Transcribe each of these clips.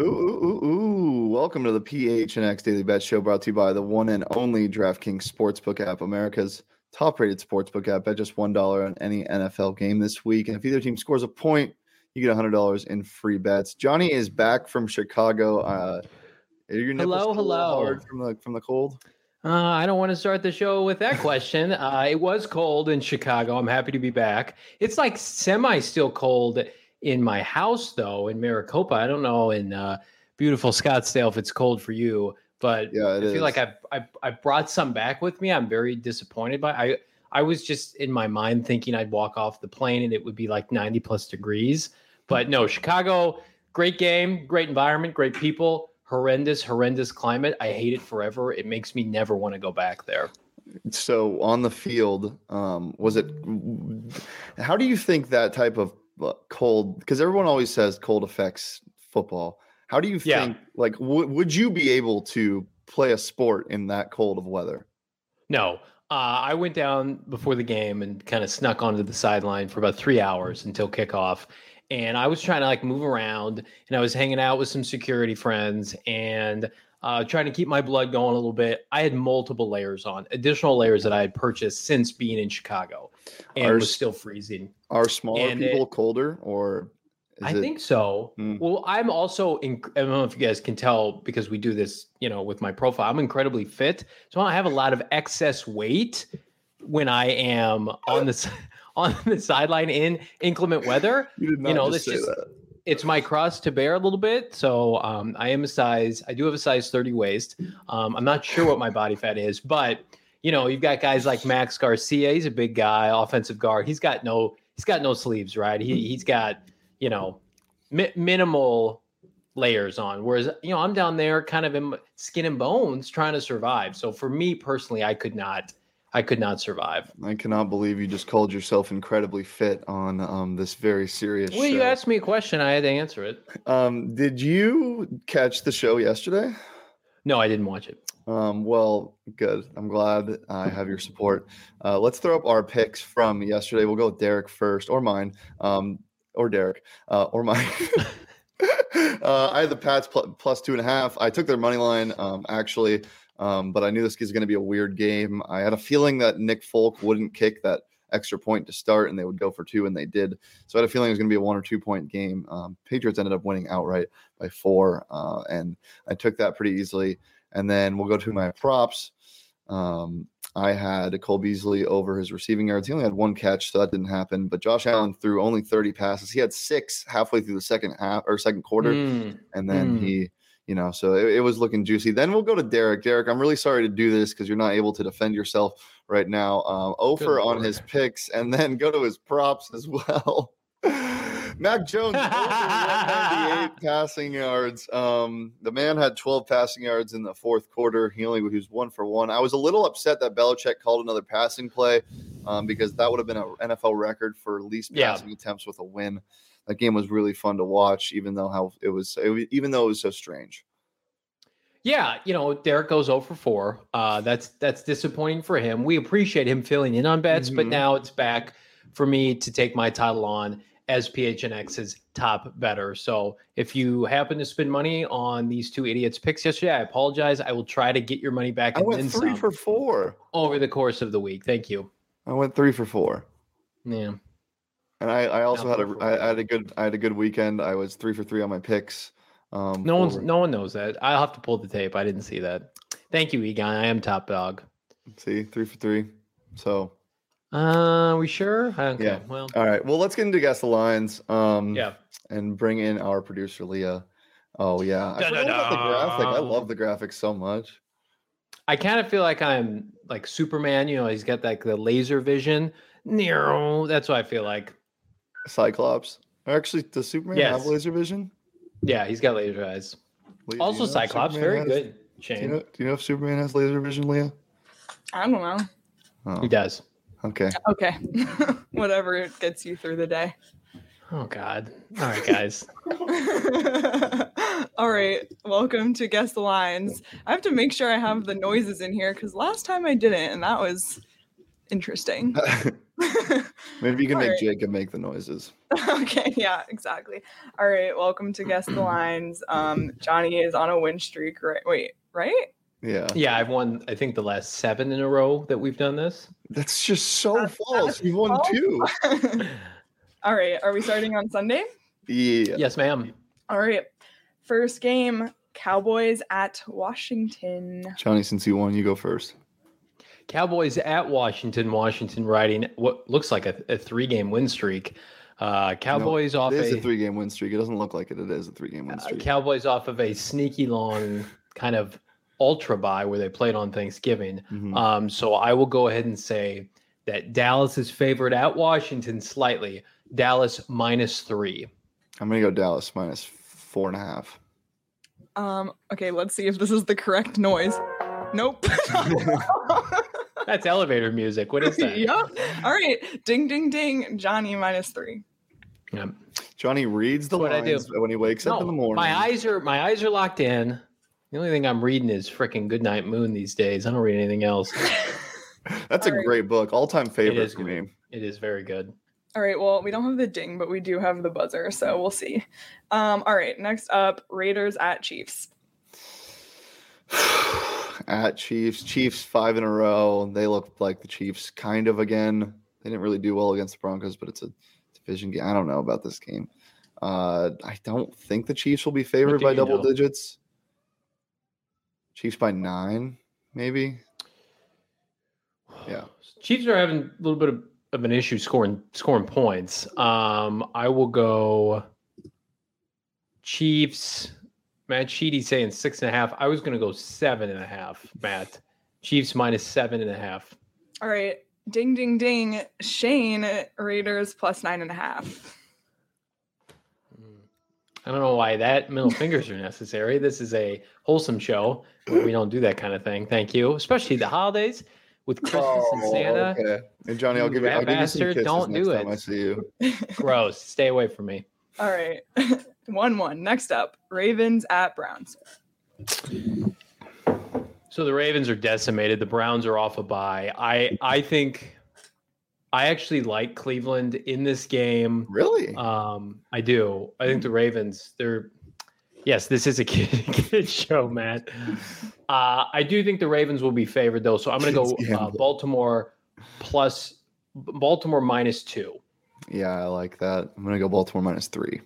Ooh. Welcome to the PHNX Daily Bet Show, brought to you by the one and only DraftKings Sportsbook app, America's top-rated sportsbook app. Bet just $1 on any NFL game this week. And if either team scores a point, you get $100 in free bets. Johnny is back from Chicago. Are your nipples still a little hard from the cold? I don't want to start the show with that question. It was cold in Chicago. I'm happy to be back. It's like semi-still cold in my house, though, in Maricopa. I don't know in beautiful Scottsdale if it's cold for you, but yeah, I feel like I brought some back with me. I'm very disappointed by. I was just in my mind thinking I'd walk off the plane and it would be like 90 plus degrees, but no. Chicago, great game, great environment, great people. Horrendous climate. I hate it forever. It makes me never want to go back there. So on the field, how do you think that type of cold, because everyone always says cold affects football. How do you think, would you be able to play a sport in that cold of weather? No. I went down before the game and kind of snuck onto the sideline for about 3 hours until kickoff. And I was trying to move around, and I was hanging out with some security friends and trying to keep my blood going a little bit. I had multiple layers on, additional layers that I had purchased since being in Chicago, and was still freezing. Are smaller people colder, or I think so. Well, I'm also, I don't know if you guys can tell because we do this, with my profile. I'm incredibly fit, so I have a lot of excess weight when I am on the sideline in inclement weather. You did not say that. It's my cross to bear a little bit. So I do have a size 30 waist. I'm not sure what my body fat is, but you've got guys like Max Garcia. He's a big guy, offensive guard. He's got no sleeves, right? He's got, minimal layers on. Whereas, I'm down there kind of in skin and bones trying to survive. So for me personally, I could not survive. I cannot believe you just called yourself incredibly fit on this very serious show. You asked me a question. I had to answer it. Did you catch the show yesterday? No, I didn't watch it. Well, good. I'm glad I have your support. Let's throw up our picks from yesterday. We'll go with Derek first, or mine, or Derek, or mine. I had the Pats plus 2.5. I took their money line, actually. But I knew this was going to be a weird game. I had a feeling that Nick Folk wouldn't kick that extra point to start, and they would go for 2, and they did. So I had a feeling it was going to be a 1 or 2 point game. Patriots ended up winning outright by 4, and I took that pretty easily. And then we'll go to my props. I had Cole Beasley over his receiving yards. He only had 1 catch, so that didn't happen. But Josh Allen threw only 30 passes. He had 6 halfway through the second quarter, and then he. So it was looking juicy. Then we'll go to Derek. Derek, I'm really sorry to do this because you're not able to defend yourself right now. Over on his picks, and then go to his props as well. Mac Jones, over 198 passing yards. The man had 12 passing yards in the fourth quarter. He was 1 for 1. I was a little upset that Belichick called another passing play because that would have been an NFL record for least passing attempts with a win. That game was really fun to watch, even though it was so strange. Yeah, Derek goes 0 for 4. That's disappointing for him. We appreciate him filling in on bets, but now it's back for me to take my title on as PHNX's top bettor. So if you happen to spend money on these 2 idiots' picks yesterday, I apologize. I will try to get your money back. I went 3 for 4 over the course of the week. Thank you. I went 3 for 4. Yeah. And I also had a good weekend. I was 3 for 3 on my picks. No one knows that. I'll have to pull the tape. I didn't see that. Thank you, Egon. I am top dog. See, 3 for 3. So, we sure? Okay. Yeah. Well, all right. Well, let's get into Guess the Lines. Yeah. And bring in our producer Leah. Oh yeah, I forgot about the graphic. I love the graphic so much. I kind of feel like I'm like Superman. He's got the laser vision. That's what I ffeel like. Cyclops. Actually, does Superman have laser vision? Yeah, he's got laser eyes. Leah, also, Cyclops, very good. Shane. Do you know if Superman has laser vision, Leah? I don't know. Oh. He does. Okay. Whatever gets you through the day. Oh, God. All right, guys. All right. Welcome to Guess the Lines. I have to make sure I have the noises in here because last time I didn't, and that was interesting. Maybe you can All make right. Jacob make the noises. Okay, yeah, exactly. All right, welcome to Guess the Lines. Johnny is on a win streak, right? Wait, right? Yeah. Yeah, I've won, I think, the last 7 in a row that we've done this. That's just so false. that's You've won false. 2. All right, are we starting on Sunday? Yeah. Yes, ma'am. All right, first game, Cowboys at Washington. Johnny, since you won, you go first. Cowboys at Washington. Washington riding what looks like a 3-game win streak. Cowboys off It is a 3-game win streak. It doesn't look like it. It is a 3-game win streak. Cowboys off of a sneaky long kind of ultra bye where they played on Thanksgiving. Mhm. So I will go ahead and say that Dallas is favored at Washington slightly. Dallas -3. I'm gonna go Dallas -4.5. Okay, let's see if this is the correct noise. Nope. That's elevator music. What is that? Yep. All right, ding, ding, ding. Johnny -3. Yeah. Johnny reads the That's what I do. lines when he wakes up in the morning. My eyes are locked in. The only thing I'm reading is freaking Goodnight Moon these days. I don't read anything else. That's a All right. great book. All-time favorite is for good. me. It is very good. All right, well, we don't have the ding, but we do have the buzzer, so we'll see. All right, next up, Raiders at Chiefs. At Chiefs 5 in a row. They look like the Chiefs kind of again. They didn't really do well against the Broncos, but it's a division game. I don't know about this game. I don't think the Chiefs will be favored do by you double know? digits. Chiefs by 9, maybe. Yeah. Chiefs are having a little bit of an issue scoring points. I will go Chiefs. Matt Sheedy saying 6.5. I was going to go 7.5. Matt, Chiefs -7.5. All right, ding, ding, ding. Shane, Raiders +9.5. I don't know why that middle fingers are necessary. This is a wholesome show where we don't do that kind of thing. Thank you, especially the holidays with Christmas and Santa. Okay. And Johnny, I'll You give you some bastard, kisses don't next do time it. I see you. Gross. Stay away from me. All right, 1-1. Next up, Ravens at Browns. So the Ravens are decimated. The Browns are off a bye. I think I actually like Cleveland in this game. Really? I do. I think the Ravens, yes, this is a kid show, man. I do think the Ravens will be favored though. So I'm going to go Baltimore -2. Yeah, I like that. I'm gonna go Baltimore -3.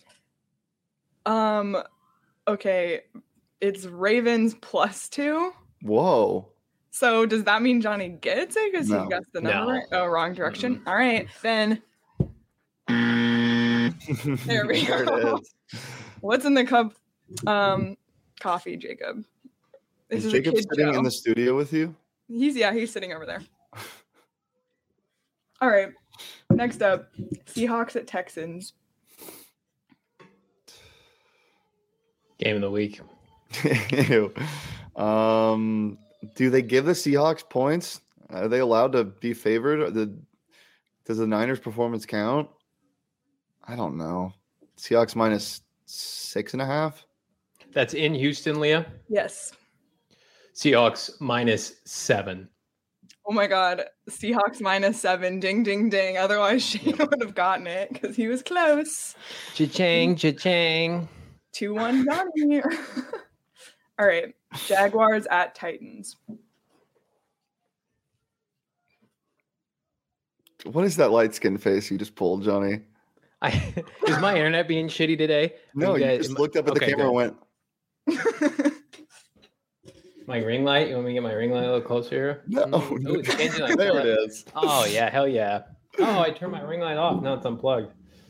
Okay, it's Ravens +2. Whoa. So does that mean Johnny gets it because No. he got the No. number right? Oh, wrong direction. All right, then there we There go. it is. What's in the cup? Coffee, Jacob. This Is is Jacob a kid sitting show. in the studio with you? He's sitting over there. All right. Next up, Seahawks at Texans. Game of the week. Ew. Do they give the Seahawks points? Are they allowed to be favored? Does the Niners' performance count? I don't know. Seahawks -6.5. That's in Houston, Leah. Yes. Seahawks -7. Oh my God. Seahawks -7. Ding, ding, ding. Otherwise, Shane would have gotten it because he was close. Cha-ching, cha-ching. 2-1 Johnny. All right. Jaguars at Titans. What is that light skin face you just pulled, Johnny? Is my internet being shitty today? No, Are you guys- just looked up at the okay, camera and good. went, My ring light? You want me to get my ring light a little closer here? no. Ooh, it's changing like There that. it is. Oh, yeah. Hell yeah. Oh, I turned my ring light off. Now it's unplugged.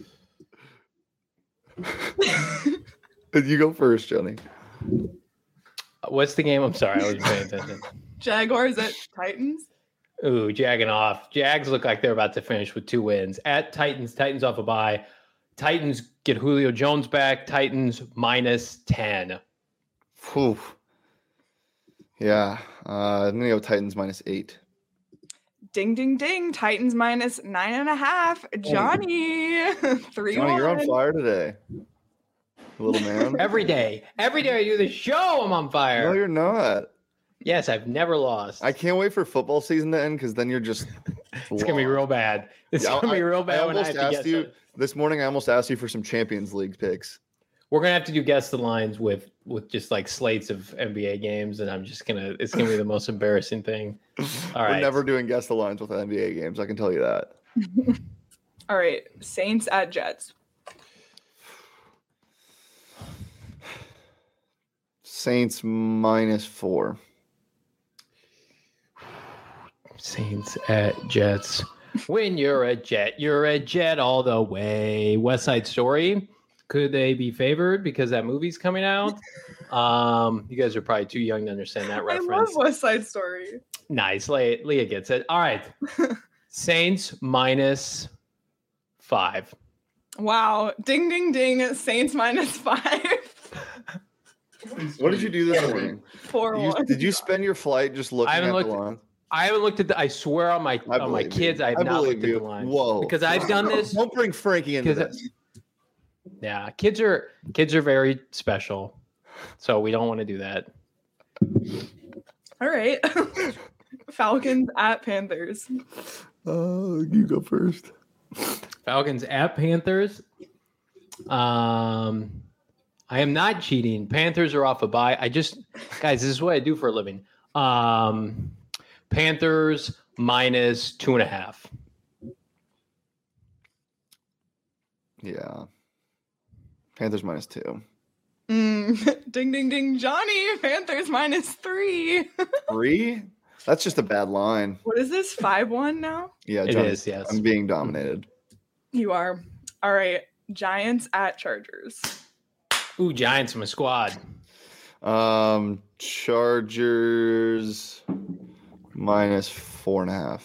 You go first, Johnny. What's the game? I'm sorry. I wasn't paying attention. Jaguars at Titans. Ooh, jagging off. Jags look like they're about to finish with 2 wins. At Titans, Titans off a bye. Titans get Julio Jones back. Titans -10. Whew. Yeah. I'm gonna go Titans -8. Ding, ding, ding. Titans -9.5. Johnny. 3-1. Johnny, you're on fire today. Little man. Every day I do the show, I'm on No, fire. you're not. Yes, I've never lost. I can't wait for football season to end because then you're just. It's gonna be real bad. It's Yeah, gonna be real bad when I have to guess you it. this morning. I almost asked you for some Champions League picks. We're gonna have to do guess the lines with just like slates of NBA games, and it's gonna be the most embarrassing thing. All right. We're never doing guess the lines with NBA games. I can tell you that. All right, Saints at Jets. Saints -4. Saints at Jets. When you're a Jet all the way. West Side Story. Could they be favored because that movie's coming out? You guys are probably too young to understand that reference. I love West Side Story. Nice. Leah gets it. All right. Saints -5. Wow. Ding, ding, ding. Saints -5. What did you do this morning? 4-1. Did you spend your flight just looking at the line? I haven't looked at I swear on my kids, I have not looked at the line. Whoa. Because I've done this. Don't bring Frankie into this. Yeah, kids are very special. So we don't want to do that. All right. Falcons at Panthers. You go first. Falcons at Panthers. I am not cheating. Panthers are off a bye. Guys, this is what I do for a living. Panthers -2.5. Yeah. Panthers -2. Ding, ding, ding. Johnny, Panthers -3. 3? That's just a bad line. What is this? 5-1 now? Yeah, it Johnny, is, yes. I'm being dominated. You are. All right. Giants at Chargers. Ooh, Giants, my squad. Chargers -4.5.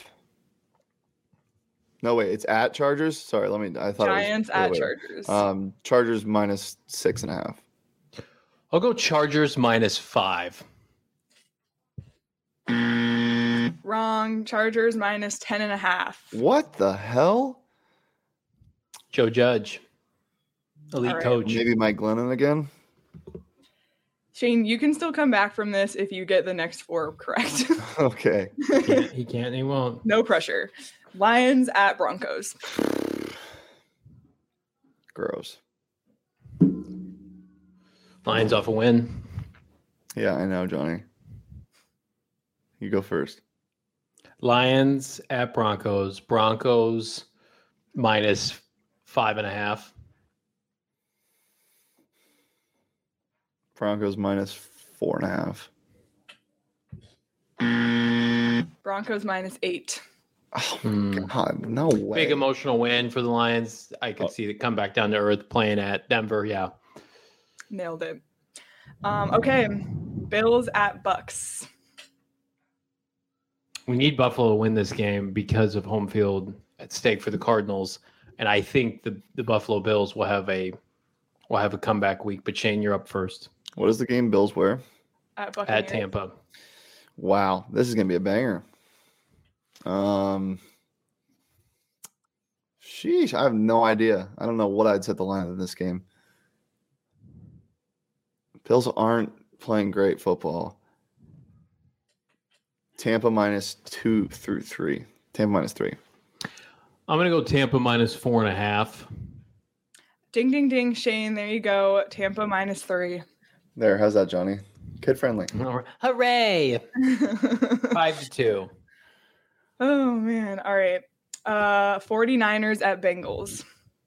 No, wait, it's at Chargers? Sorry, I thought Giants it was at Chargers. Chargers -6.5. I'll go Chargers -5. Wrong. Chargers -10.5. What the hell? Joe Judge. Elite All right. coach. Maybe Mike Glennon again? Shane, you can still come back from this if you get the next 4 correct. Okay. He can't, he won't. No pressure. Lions at Broncos. Gross. Lions off a win. Yeah, I know, Johnny. You go first. Lions at Broncos. Broncos -5.5. Broncos -4.5. Broncos -8. Oh, God, no way. Big emotional win for the Lions. I could see it come back down to earth playing at Denver. Yeah. Nailed it. Okay. Bills at Bucks. We need Buffalo to win this game because of home field at stake for the Cardinals. And I think the Buffalo Bills will have a comeback week. But Shane, you're up first. What is the game? Bills where? At Buccaneers. At Tampa. Wow, this is gonna be a banger. Sheesh, I have no idea. I don't know what I'd set the line in this game. Bills aren't playing great football. Tampa -2 through 3. Tampa -3. I'm gonna go Tampa -4.5. Ding, ding, ding. Shane, there you go. Tampa -3. There, how's that, Johnny? Kid friendly. Hooray! 5-2. Oh, man. All right. 49ers at Bengals.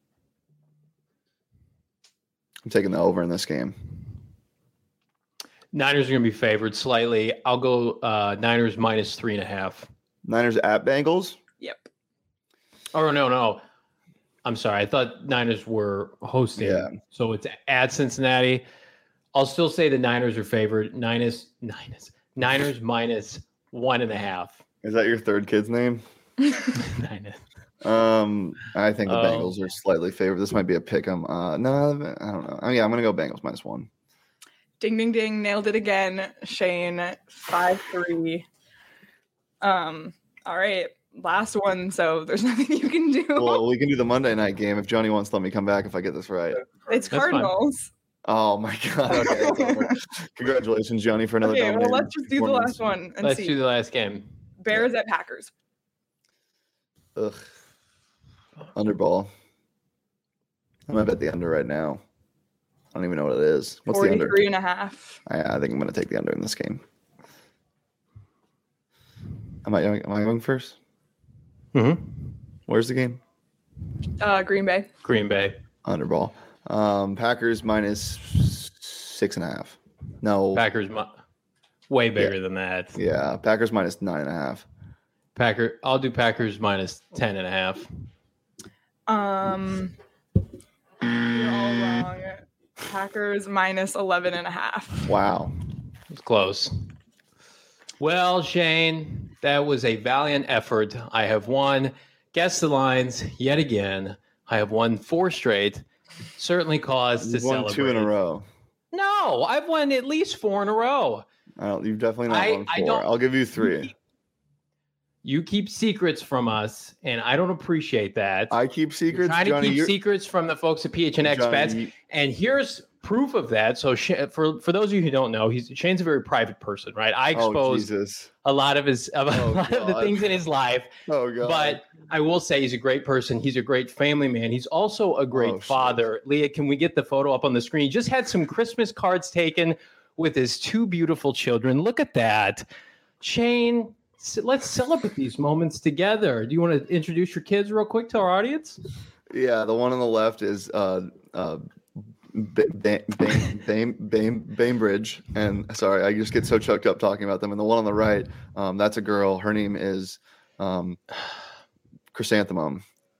I'm taking the over in this game. Niners are going to be favored slightly. I'll go Niners -3.5. Niners at Bengals? Yep. Oh, no. I'm sorry. I thought Niners were hosting. Yeah. So it's at Cincinnati. I'll still say the Niners are favored. Niners -1.5. Is that your third kid's name? Niners. I think the Bengals are slightly favored. This might be a pick 'em. No, I don't know. Yeah, I'm gonna go Bengals -1. Ding, ding, ding. Nailed it again. Shane, 5-3. All right. Last one. So there's nothing you can do. Well, we can do the Monday night game if Johnny wants to let me come back if I get this right. It's That's Cardinals Oh my God. Okay, it's over. Congratulations, Johnny, for another Okay, well, dominating let's just do the performance. last one and Let's see. do the last game. Bears at Packers. Ugh. Underball. I'm gonna bet the under right now. I don't even know what it is. What's the under? 43.5. I think I'm gonna take the under in this game. Am I going first? Mm-hmm. Where's the game? Green Bay. Green Bay. Underball. Packers minus 6.5. No. Packers way bigger than that. Yeah, Packers minus 9.5. I'll do Packers minus 10.5. You're all wrong. Packers minus 11.5. Wow. It's close. Well, Shane, that was a valiant effort. I have won. Guess the lines yet again. I have won 4 straight. Certainly cause to You've won celebrate. 2 in a row. No, I've won at least 4 in a row. You've definitely not won 4. I'll give you 3. You keep secrets from us, and I don't appreciate that. I keep secrets. You're trying Johnny, to keep secrets from the folks at PHNX Bets, and here's proof of that. So, for those of you who don't know, Shane's a very private person, right? I exposed a lot of the things in his life. Oh God! But I will say he's a great person. He's a great family man. He's also a great father. Shit. Leah, can we get the photo up on the screen? He just had some Christmas cards taken with his 2 beautiful children. Look at that, Shane. Let's celebrate these moments together. Do you want to introduce your kids real quick to our audience? Yeah, the one on the left is Bainbridge, and sorry, I just get so choked up talking about them. And the one on the right, that's a girl. Her name is Chrysanthemum.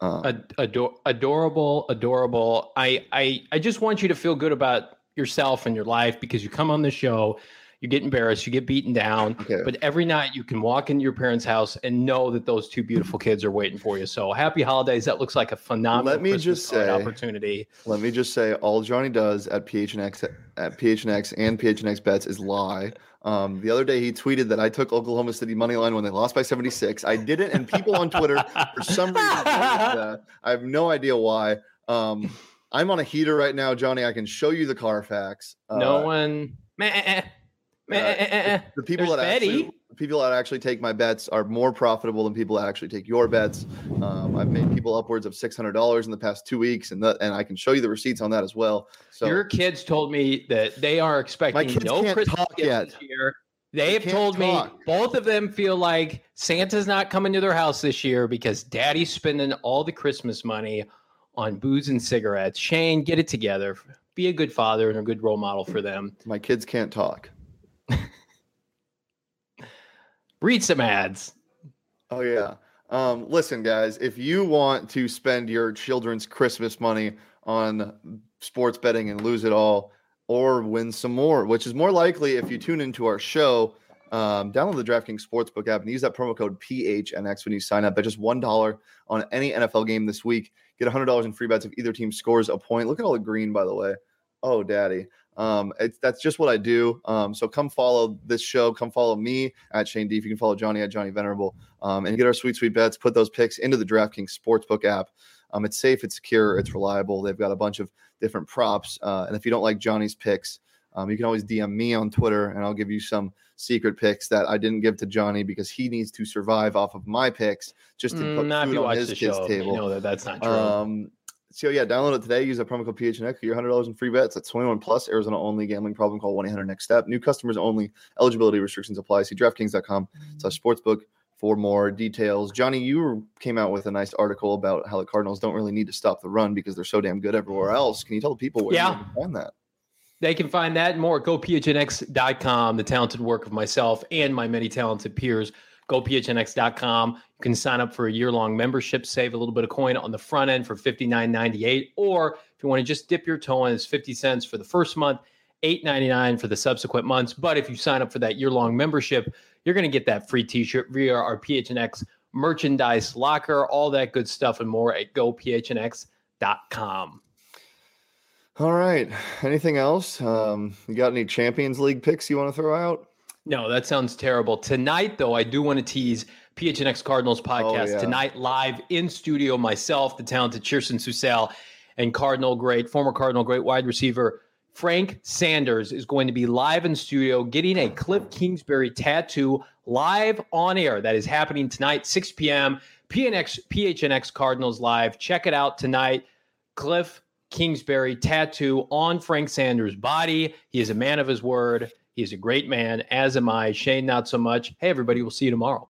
Adorable. I just want you to feel good about yourself and your life because you come on the show. You get embarrassed, you get beaten down, but every night you can walk into your parents' house and know that those 2 beautiful kids are waiting for you. So happy holidays. That looks like a phenomenal opportunity. Let me just say, all Johnny does at PHNX and PHNX Bets is lie. The other day he tweeted that I took Oklahoma City money line when they lost by 76. I didn't, and people on Twitter for some reason that. I have no idea why. I'm on a heater right now, Johnny. I can show you the Carfax. The people that actually take my bets are more profitable than people that actually take your bets. I've made people upwards of $600 in the past 2 weeks, and I can show you the receipts on that as well. So your kids told me that they are expecting no Christmas gifts this year. They have told me both of them feel like Santa's not coming to their house this year because Daddy's spending all the Christmas money on booze and cigarettes. Shane, get it together. Be a good father and a good role model for them. My kids can't talk. Read some ads. Oh, yeah. Listen, guys, if you want to spend your children's Christmas money on sports betting and lose it all or win some more, which is more likely if you tune into our show, download the DraftKings Sportsbook app and use that promo code PHNX when you sign up. At just $1 on any NFL game this week, get $100 in free bets if either team scores a point. Look at all the green, by the way. Oh, daddy. That's just what I do. So come follow this show. Come follow me at Shane Deef. You can follow Johnny at Johnny Venerable, and get our sweet bets. Put those picks into the DraftKings Sportsbook app. It's safe, it's secure, it's reliable. They've got a bunch of different props. And if you don't like Johnny's picks, you can always DM me on Twitter, and I'll give you some secret picks that I didn't give to Johnny because he needs to survive off of my picks just to put food on his kids' table. You know that's not true. So yeah, download it today. Use the promo code PHNX. Get your $100 in free bets. That's 21 plus. Arizona only. Gambling problem? Call 1-800-NEXT-STEP. New customers only. Eligibility restrictions apply. See DraftKings.com/sportsbook for more details. Johnny, you came out with a nice article about how the Cardinals don't really need to stop the run because they're so damn good everywhere else. Can you tell the people where you can find that? They can find that and more at GoPHNX.com. The talented work of myself and my many talented peers. GoPHNX.com. You can sign up for a year-long membership, save a little bit of coin on the front end for $59.98. Or if you want to just dip your toe in, it's 50 cents for the first month, $8.99 for the subsequent months. But if you sign up for that year-long membership, you're going to get that free t-shirt via our PHNX merchandise locker, all that good stuff and more at GoPHNX.com. All right. Anything else? You got any Champions League picks you want to throw out? No, that sounds terrible. Tonight, though, I do want to tease PHNX Cardinals podcast. Oh, yeah. Tonight, live in studio, myself, the talented Chirson Susel, and former Cardinal great wide receiver Frank Sanders is going to be live in studio getting a Cliff Kingsbury tattoo live on air. That is happening tonight, 6 p.m. PHNX Cardinals Live. Check it out tonight. Cliff Kingsbury tattoo on Frank Sanders' body. He is a man of his word. He is a great man, as am I. Shane, not so much. Hey, everybody, we'll see you tomorrow.